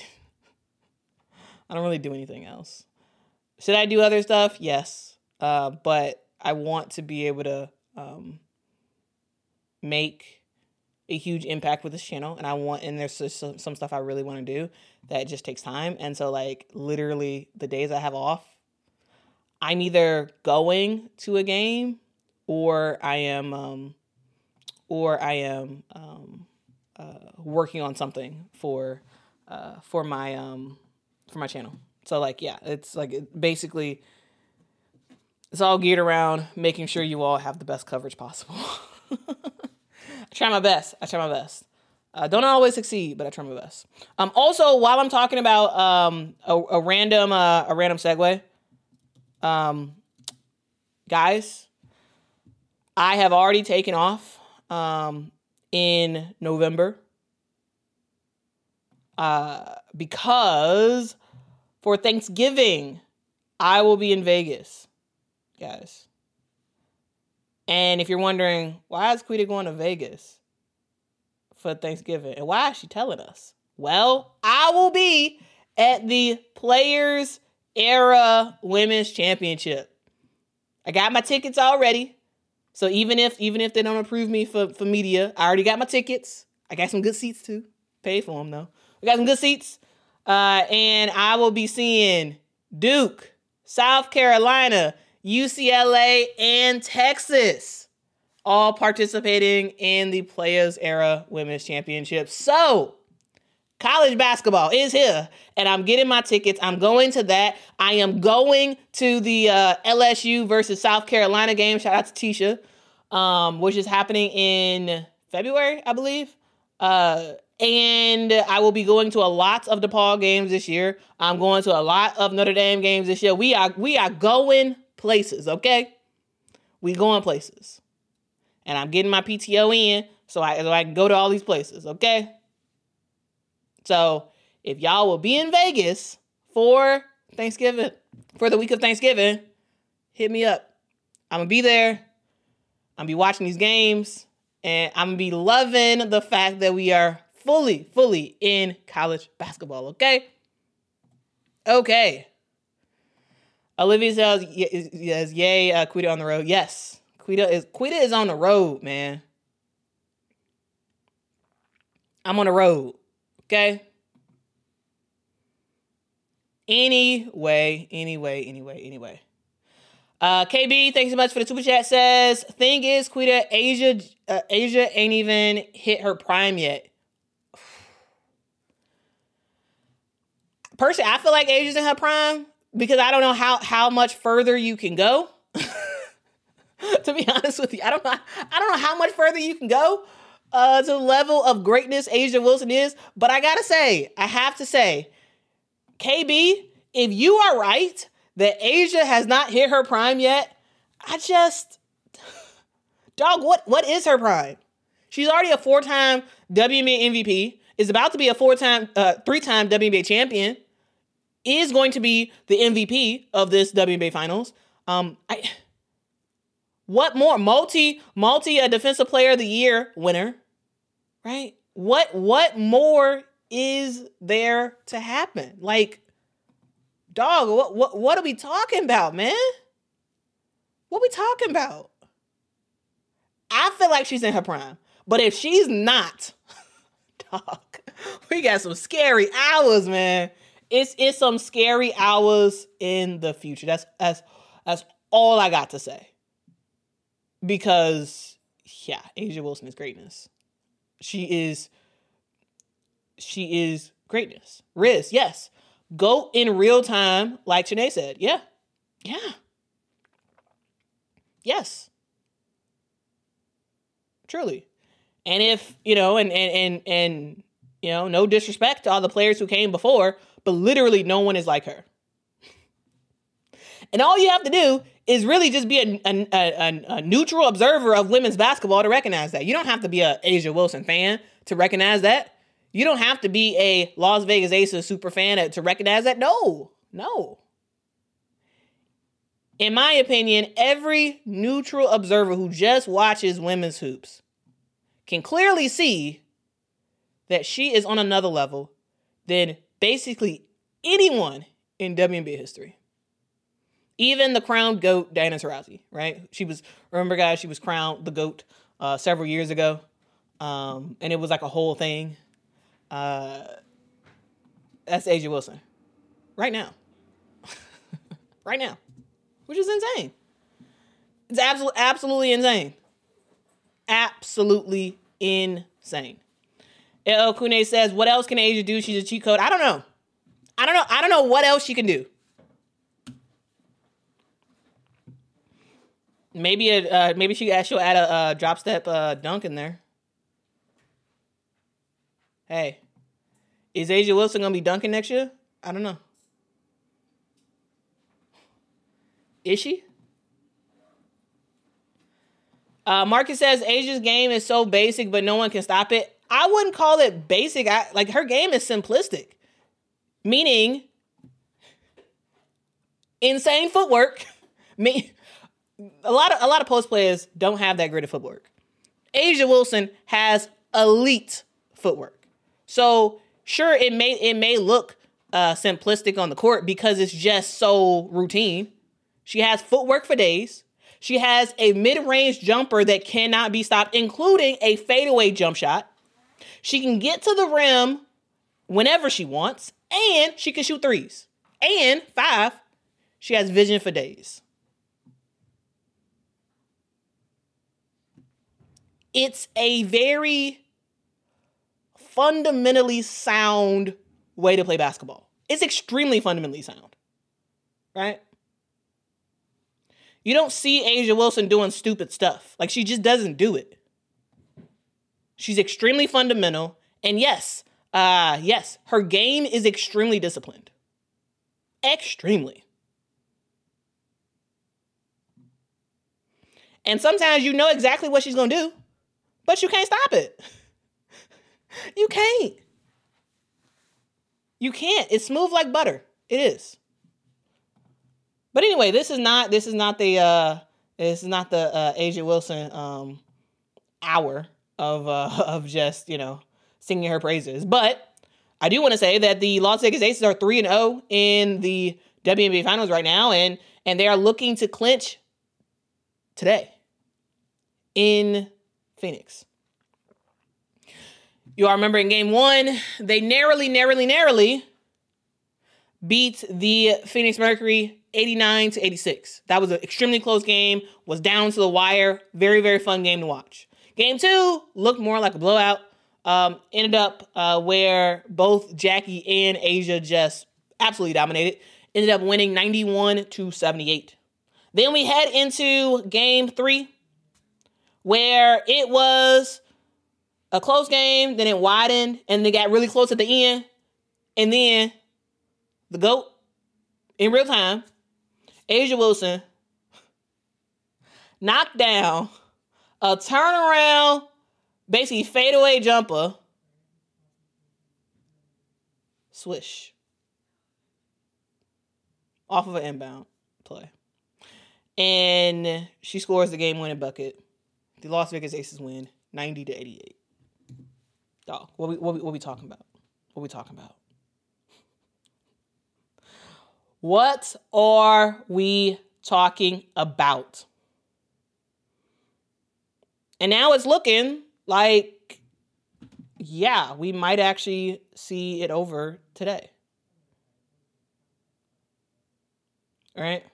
Speaker 1: I don't really do anything else. Should I do other stuff? Yes, uh, but I want to be able to um, make a huge impact with this channel, and I want, and there's just some, some stuff I really want to do that just takes time. And so like literally the days I have off, I'm either going to a game or I am, um, or I am um, uh, working on something for uh, for my um, for my channel. So like yeah, it's like it basically it's all geared around making sure you all have the best coverage possible. I try my best. I try my best. Uh, don't always succeed, but I try my best. Um, also, while I'm talking about um, a, a random uh, a random segue, um, guys, I have already taken off um, in November uh, because for Thanksgiving I will be in Vegas, guys. And if you're wondering, why is Quita going to Vegas for Thanksgiving? And why is she telling us? Well, I will be at the Players Era Women's Championship. I got my tickets already. So even if even if they don't approve me for, for media, I already got my tickets. I got some good seats too. Paid for them though. We got some good seats. Uh, and I will be seeing Duke, South Carolina, U C L A, and Texas all participating in the Players Era Women's Championship. So, college basketball is here, and I'm getting my tickets. I'm going to that. I am going to the uh, L S U versus South Carolina game. Shout out to Tisha, um, which is happening in February, I believe. Uh, and I will be going to a lot of DePaul games this year. I'm going to a lot of Notre Dame games this year. We are we are going places, okay? We going places. And I'm getting my P T O in so I, so I can go to all these places, okay? So if y'all will be in Vegas for Thanksgiving, for the week of Thanksgiving, hit me up. I'm going to be there. I'm going to be watching these games. And I'm going to be loving the fact that we are fully, fully in college basketball, okay? Okay. Olivia says, yes, yay, uh, Quita on the road. Yes, Quita is Quita is on the road, man. I'm on the road, okay? Anyway, anyway, anyway, anyway. Uh, K B, thanks so much for the super chat. Says, thing is, Quita, Asia, uh, Asia ain't even hit her prime yet. Personally, I feel like Asia's in her prime. Because I don't know how, how much further you can go. To be honest with you, I don't know. I don't know how much further you can go uh, to the level of greatness A'ja Wilson is. But I gotta say, I have to say, K B, if you are right that A'ja has not hit her prime yet, I just, dog, what what is her prime? She's already a four-time W N B A M V P. Is about to be a four-time, uh, three-time W N B A champion. Is going to be the M V P of this W N B A Finals. Um, I, what more? Multi, multi a Defensive Player of the Year winner, right? What, what more is there to happen? Like, dog, what, what, what are we talking about, man? What are we talking about? I feel like she's in her prime, but if she's not, dog, we got some scary hours, man. It's it's some scary hours in the future. That's that's that's all I got to say. Because yeah, A'ja Wilson is greatness. She is she is greatness. Riz, yes. Go in real time, like Chanae said. Yeah. Yeah. Yes. Truly. And if, you know, and and and and you know, no disrespect to all the players who came before, but literally no one is like her. And all you have to do is really just be a, a, a, a neutral observer of women's basketball to recognize that. You don't have to be a A'ja Wilson fan to recognize that. You don't have to be a Las Vegas Aces super fan to recognize that. No, no. In my opinion, every neutral observer who just watches women's hoops can clearly see that she is on another level than basically anyone in W N B A history. Even the crowned GOAT, Diana Taurasi, right? She was, remember guys, she was crowned the GOAT uh, several years ago. Um, and it was like a whole thing. Uh, that's A'ja Wilson. Right now. Right now. Which is insane. It's absolutely, absolutely insane. Absolutely insane. El Kune says, what else can A'ja do? She's a cheat code. I don't know. I don't know. I don't know what else she can do. Maybe a, uh, maybe she she'll add a, a drop step uh, dunk in there. Hey, is A'ja Wilson gonna be dunking next year? I don't know. Is she? Uh, Marcus says A'ja's game is so basic, but no one can stop it. I wouldn't call it basic. I, like her game is simplistic, meaning insane footwork. Me, a lot of a lot of post players don't have that great of footwork. A'ja Wilson has elite footwork. So sure, it may it may look uh, simplistic on the court because it's just so routine. She has footwork for days. She has a mid-range jumper that cannot be stopped, including a fadeaway jump shot. She can get to the rim whenever she wants, and she can shoot threes. And five, she has vision for days. It's a very fundamentally sound way to play basketball. It's extremely fundamentally sound, right? You don't see A'ja Wilson doing stupid stuff. Like, she just doesn't do it. She's extremely fundamental. And yes, uh, yes, her game is extremely disciplined. Extremely. And sometimes you know exactly what she's going to do, but you can't stop it. You can't. You can't. It's smooth like butter. It is. But anyway, this is not this is not the uh, this is not the uh, A'ja Wilson um, hour of uh, of just, you know, singing her praises. But I do want to say that the Las Vegas Aces are three and oh in the W N B A Finals right now, and and they are looking to clinch today in Phoenix. You all remember in game one, they narrowly, narrowly, narrowly beat the Phoenix Mercury eighty-nine to eighty-six. That was an extremely close game, was down to the wire. Very, very fun game to watch. Game two looked more like a blowout. Um, ended up uh, where both Jackie and A'ja just absolutely dominated. Ended up winning ninety-one to seventy-eight. Then we head into game three, where it was a close game, then it widened, and they got really close at the end. And then the GOAT, in real time, A'ja Wilson knocked down a turnaround, basically fadeaway jumper. Swish. Off of an inbound play. And she scores the game-winning bucket. The Las Vegas Aces win ninety to eighty-eight. Dog, what we what we what we talking about? What we talking about? What are we talking about? And now it's looking like, yeah, we might actually see it over today. All right?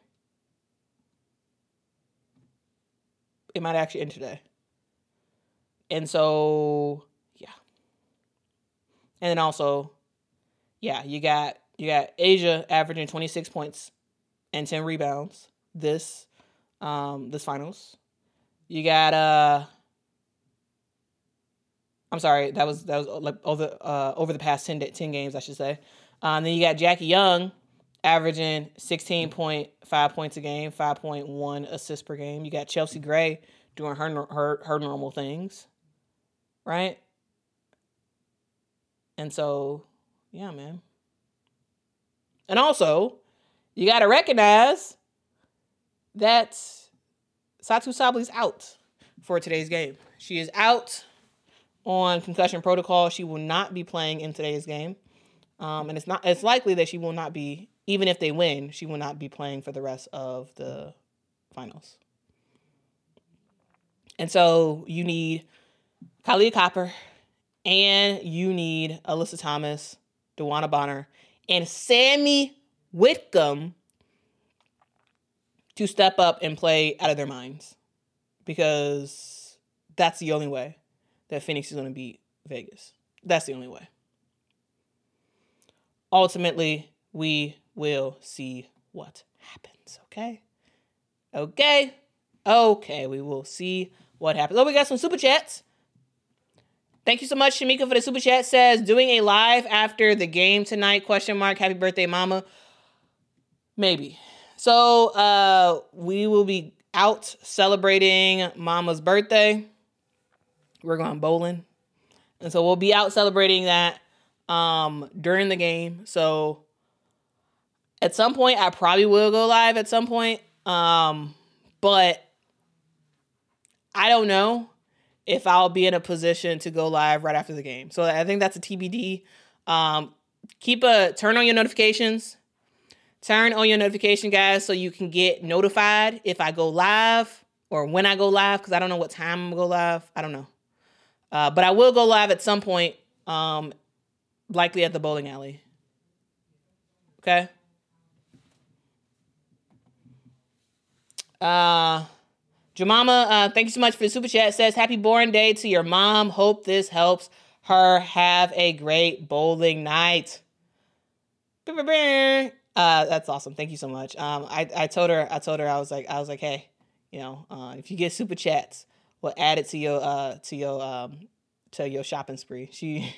Speaker 1: It might actually end today. And so, yeah. And then also, yeah, you got you got A'ja averaging twenty-six points and ten rebounds this um, this finals. You got uh I'm sorry, that was that was like over uh, over the past ten, ten games, I should say. Um, then you got Jackie Young averaging sixteen point five points a game, five point one assists per game. You got Chelsea Gray doing her her her normal things, right? And so, yeah, man. And also, you got to recognize that Satou Sabli's out for today's game. She is out on concussion protocol. She will not be playing in today's game. Um, and it's not it's likely that she will not be, even if they win, she will not be playing for the rest of the finals. And so you need Kalia Copper, and you need Alyssa Thomas, DeWanna Bonner, and Sammy Whitcomb to step up and play out of their minds, because that's the only way that Phoenix is going to beat Vegas. That's the only way. Ultimately, we will see what happens, okay? Okay? Okay, we will see what happens. Oh, we got some super chats. Thank you so much, Shamika, for the super chat. Says, doing a live after the game tonight, question mark, happy birthday, mama. Maybe. So, uh, we will be out celebrating mama's birthday. We're going bowling. And so we'll be out celebrating that um, during the game. So at some point, I probably will go live at some point. Um, but I don't know if I'll be in a position to go live right after the game. So I think that's a T B D. Um, keep a turn on your notifications. Turn on your notification, guys, so you can get notified if I go live or when I go live, because I don't know what time I'm going to go live. I don't know. Uh, but I will go live at some point, um, likely at the bowling alley. Okay? Uh, Jemima, uh, thank you so much for the super chat. It says, happy born day to your mom. Hope this helps her have a great bowling night. Uh, that's awesome. Thank you so much. Um, I, I told her, I told her, I was like, I was like, hey, you know, uh, if you get super chats, we'll add it to your, uh, to your, um, to your shopping spree. She,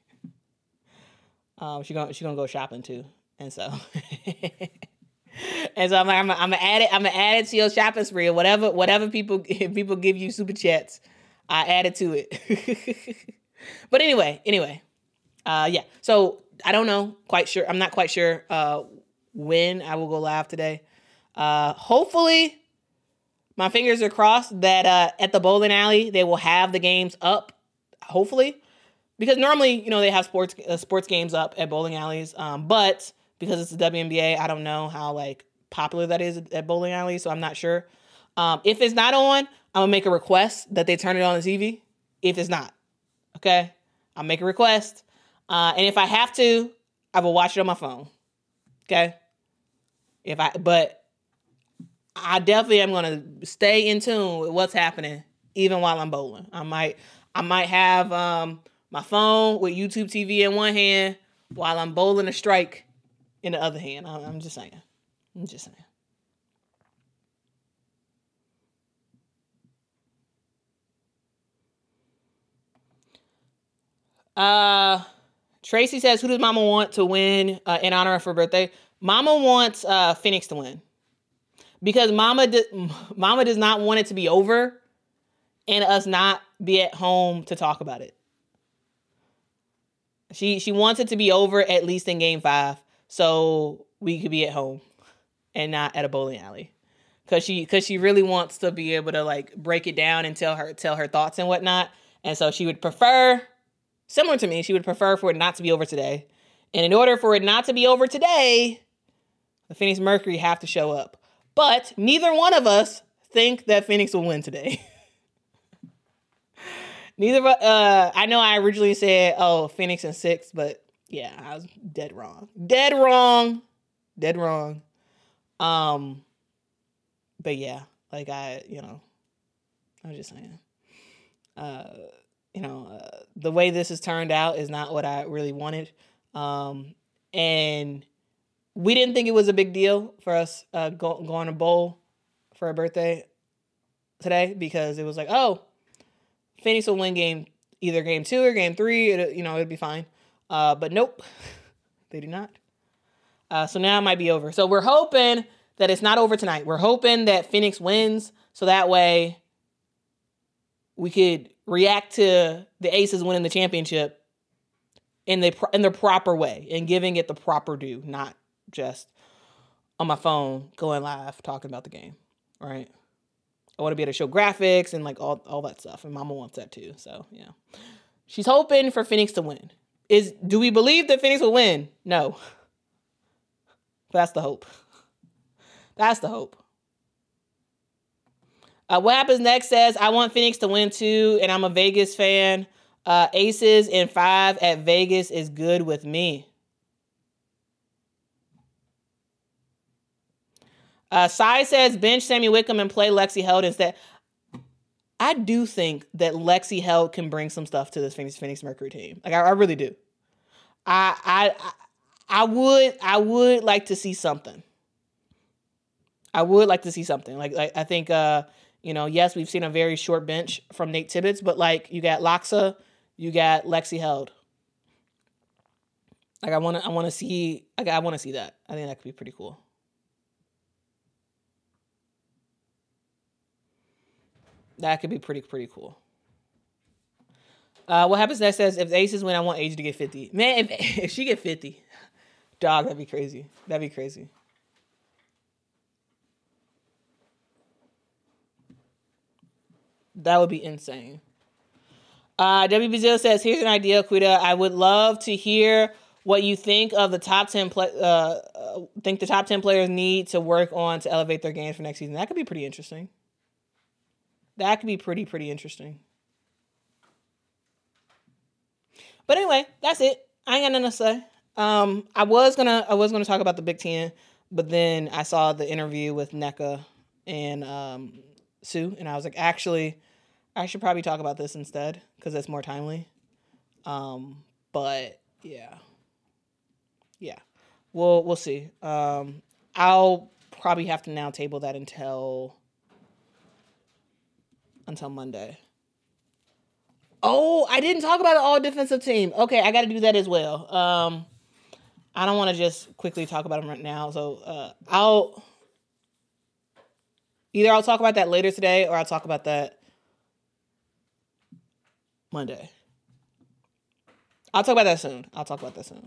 Speaker 1: um, she gonna, she gonna go shopping too. And so, and so I'm like, I'm, I'm gonna add it, I'm gonna add it to your shopping spree or whatever, whatever people, if people give you super chats, I add it to it. But anyway, anyway, uh, yeah. So I don't know, quite sure. I'm not quite sure, uh, when I will go live today. Uh, hopefully, my fingers are crossed that uh, at the bowling alley, they will have the games up, hopefully. Because normally, you know, they have sports uh, sports games up at bowling alleys. Um, but because it's the W N B A, I don't know how, like, popular that is at bowling alleys, so I'm not sure. Um, if it's not on, I'm going to make a request that they turn it on the T V. If it's not, okay? I'll make a request. Uh, and if I have to, I will watch it on my phone, okay? If I, but I definitely am going to stay in tune with what's happening, even while I'm bowling. I might, I might have um, my phone with YouTube T V in one hand while I'm bowling a strike in the other hand. I'm, I'm just saying. I'm just saying. Uh, Tracy says, who does Mama want to win uh, in honor of her birthday? Mama wants uh, Phoenix to win. Because Mama, di- Mama does not want it to be over and us not be at home to talk about it. She she wants it to be over at least in game five so we could be at home and not at a bowling alley. Cause she cause she really wants to be able to like break it down and tell her tell her thoughts and whatnot. And so she would prefer, similar to me, she would prefer for it not to be over today. And in order for it not to be over today, the Phoenix Mercury have to show up. But neither one of us think that Phoenix will win today. Neither, uh, I know I originally said, oh, Phoenix in six, but yeah, I was dead wrong. Dead wrong. Dead wrong. Um, but yeah, like I, you know, I was just saying, uh, you know, uh, the way this has turned out is not what I really wanted. Um, and we didn't think it was a big deal for us uh, go, going to bowl for a birthday today because it was like, oh, Phoenix will win game, either game two or game three. It, you know, it'd be fine. Uh, but nope, they do not. Uh, so now it might be over. So we're hoping that it's not over tonight. We're hoping that Phoenix wins so that way we could react to the Aces winning the championship in the in the proper way and giving it the proper due, not just on my phone going live talking about the game, right? I want to be able to show graphics and like all, all that stuff. And Mama wants that too. So, yeah. She's hoping for Phoenix to win. Is do we believe that Phoenix will win? No. That's the hope. That's the hope. Uh, what happens next says, I want Phoenix to win too, and I'm a Vegas fan. Uh, Aces in five at Vegas is good with me. Uh, Sai says, bench Sammy Wickham and play Lexi Held instead. I do think that Lexi Held can bring some stuff to this Phoenix Phoenix Mercury team. Like I, I really do. I, I I would I would like to see something. I would like to see something. Like, like I think uh, you know, yes, we've seen a very short bench from Nate Tibbetts, but like you got Loxa, you got Lexi Held. Like I want to I want to see like I want to see that. I think that could be pretty cool. That could be pretty, pretty cool. Uh, what happens next says, if the Aces win, I want Asia to get fifty. Man, if, if she get fifty, dog, that'd be crazy. That'd be crazy. That would be insane. Uh, W B zero says, here's an idea, Quita. I would love to hear what you think of the top ten, play, uh, uh, think the top ten players need to work on to elevate their games for next season. That could be pretty interesting. That could be pretty, pretty interesting. But anyway, that's it. I ain't got nothing to say. Um, I was gonna, I was gonna talk about the Big Ten, but then I saw the interview with Nneka and um, Sue, and I was like, actually, I should probably talk about this instead because it's more timely. Um, but yeah, yeah, we'll we'll see. Um, I'll probably have to now table that until. Until Monday. Oh, I didn't talk about the all defensive team. Okay, I got to do that as well. Um, I don't want to just quickly talk about them right now. So uh, I'll either I'll talk about that later today or I'll talk about that Monday. I'll talk about that soon. I'll talk about that soon.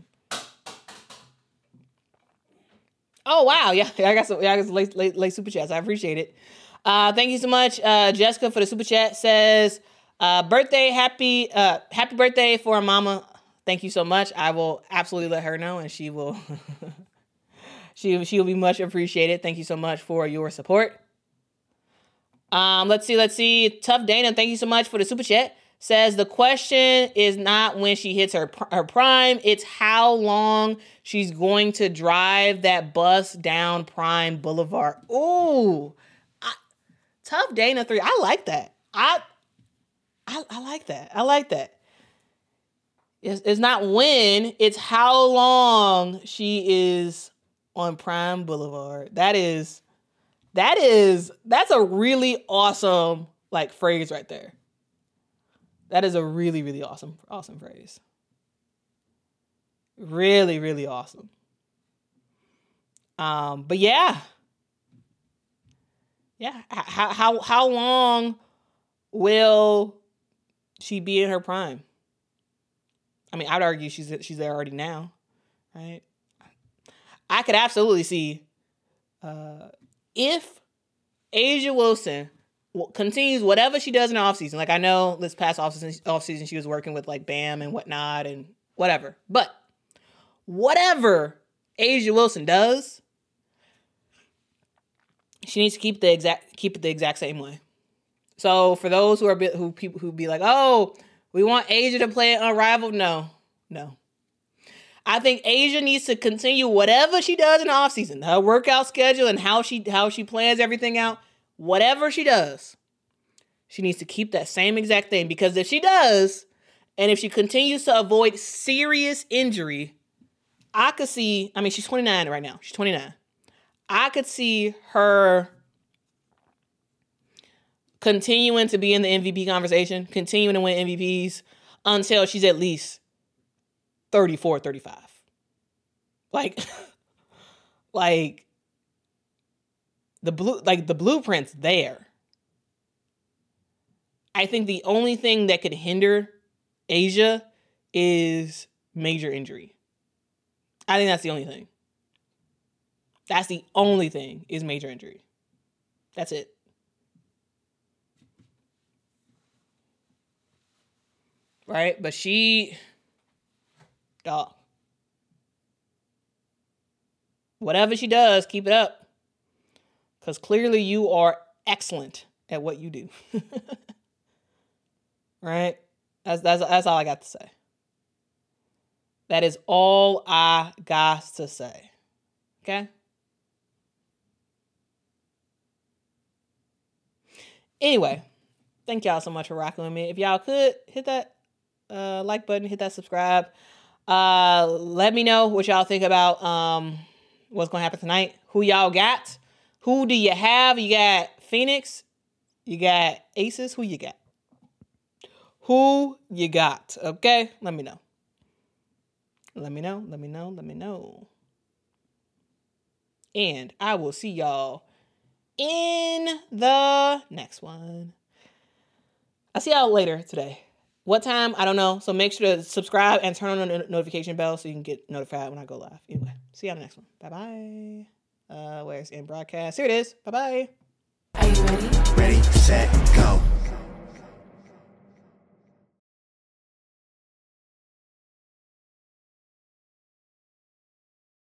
Speaker 1: Oh wow, yeah, I got some, yeah, I got some late, late, late super chats. I appreciate it. Uh, thank you so much, uh, Jessica, for the super chat. Says, uh, birthday, happy, uh, happy birthday for mama. Thank you so much. I will absolutely let her know, and she will, she she will be much appreciated. Thank you so much for your support. Um, let's see, let's see. Tough Dana, thank you so much for the super chat. Says the question is not when she hits her her prime, it's how long she's going to drive that bus down Prime Boulevard. Ooh. Tough Dana three. I like that. I, I I like that. I like that. It's, it's not when, it's how long she is on Prime Boulevard. That is, that is, that's a really awesome like phrase right there. That is a really, really awesome, awesome phrase. Really, really awesome. Um, but yeah. Yeah, how how how long will she be in her prime? I mean, I'd argue she's she's there already now, right? I could absolutely see uh, if A'ja Wilson continues whatever she does in the offseason. Like I know this past offseason, offseason she was working with like Bam and whatnot and whatever. But whatever A'ja Wilson does, she needs to keep the exact keep it the exact same way. So for those who are who people who be like, oh, we want A'ja to play Unrivaled. No, no. I think A'ja needs to continue whatever she does in the offseason, her workout schedule and how she how she plans everything out. Whatever she does, she needs to keep that same exact thing. Because if she does, and if she continues to avoid serious injury, I could see. I mean, she's twenty-nine right now. She's twenty-nine. I could see her continuing to be in the M V P conversation, continuing to win M V Ps until she's at least thirty-four, thirty-five. Like, like the blue, like the blueprint's there. I think the only thing that could hinder A'ja is major injury. I think that's the only thing. That's the only thing is major injury. That's it. Right? But she, dog. Whatever she does, keep it up. Because clearly you are excellent at what you do. Right? That's, that's, that's all I got to say. That is all I got to say. Okay? Anyway, thank y'all so much for rocking with me. If y'all could, hit that uh, like button, hit that subscribe. Uh, let me know what y'all think about um, what's going to happen tonight. Who y'all got? Who do you have? You got Phoenix? You got Aces? Who you got? Who you got? Okay? Let me know. Let me know. Let me know. Let me know. And I will see y'all in the next one. I'll see y'all later today. What time? I don't know. So make sure to subscribe and turn on the notification bell so you can get notified when I go live. Anyway, see y'all in the next one. Bye-bye. Uh, where's in broadcast? Here it is. Bye-bye.
Speaker 2: Are you ready?
Speaker 3: Ready, set, go.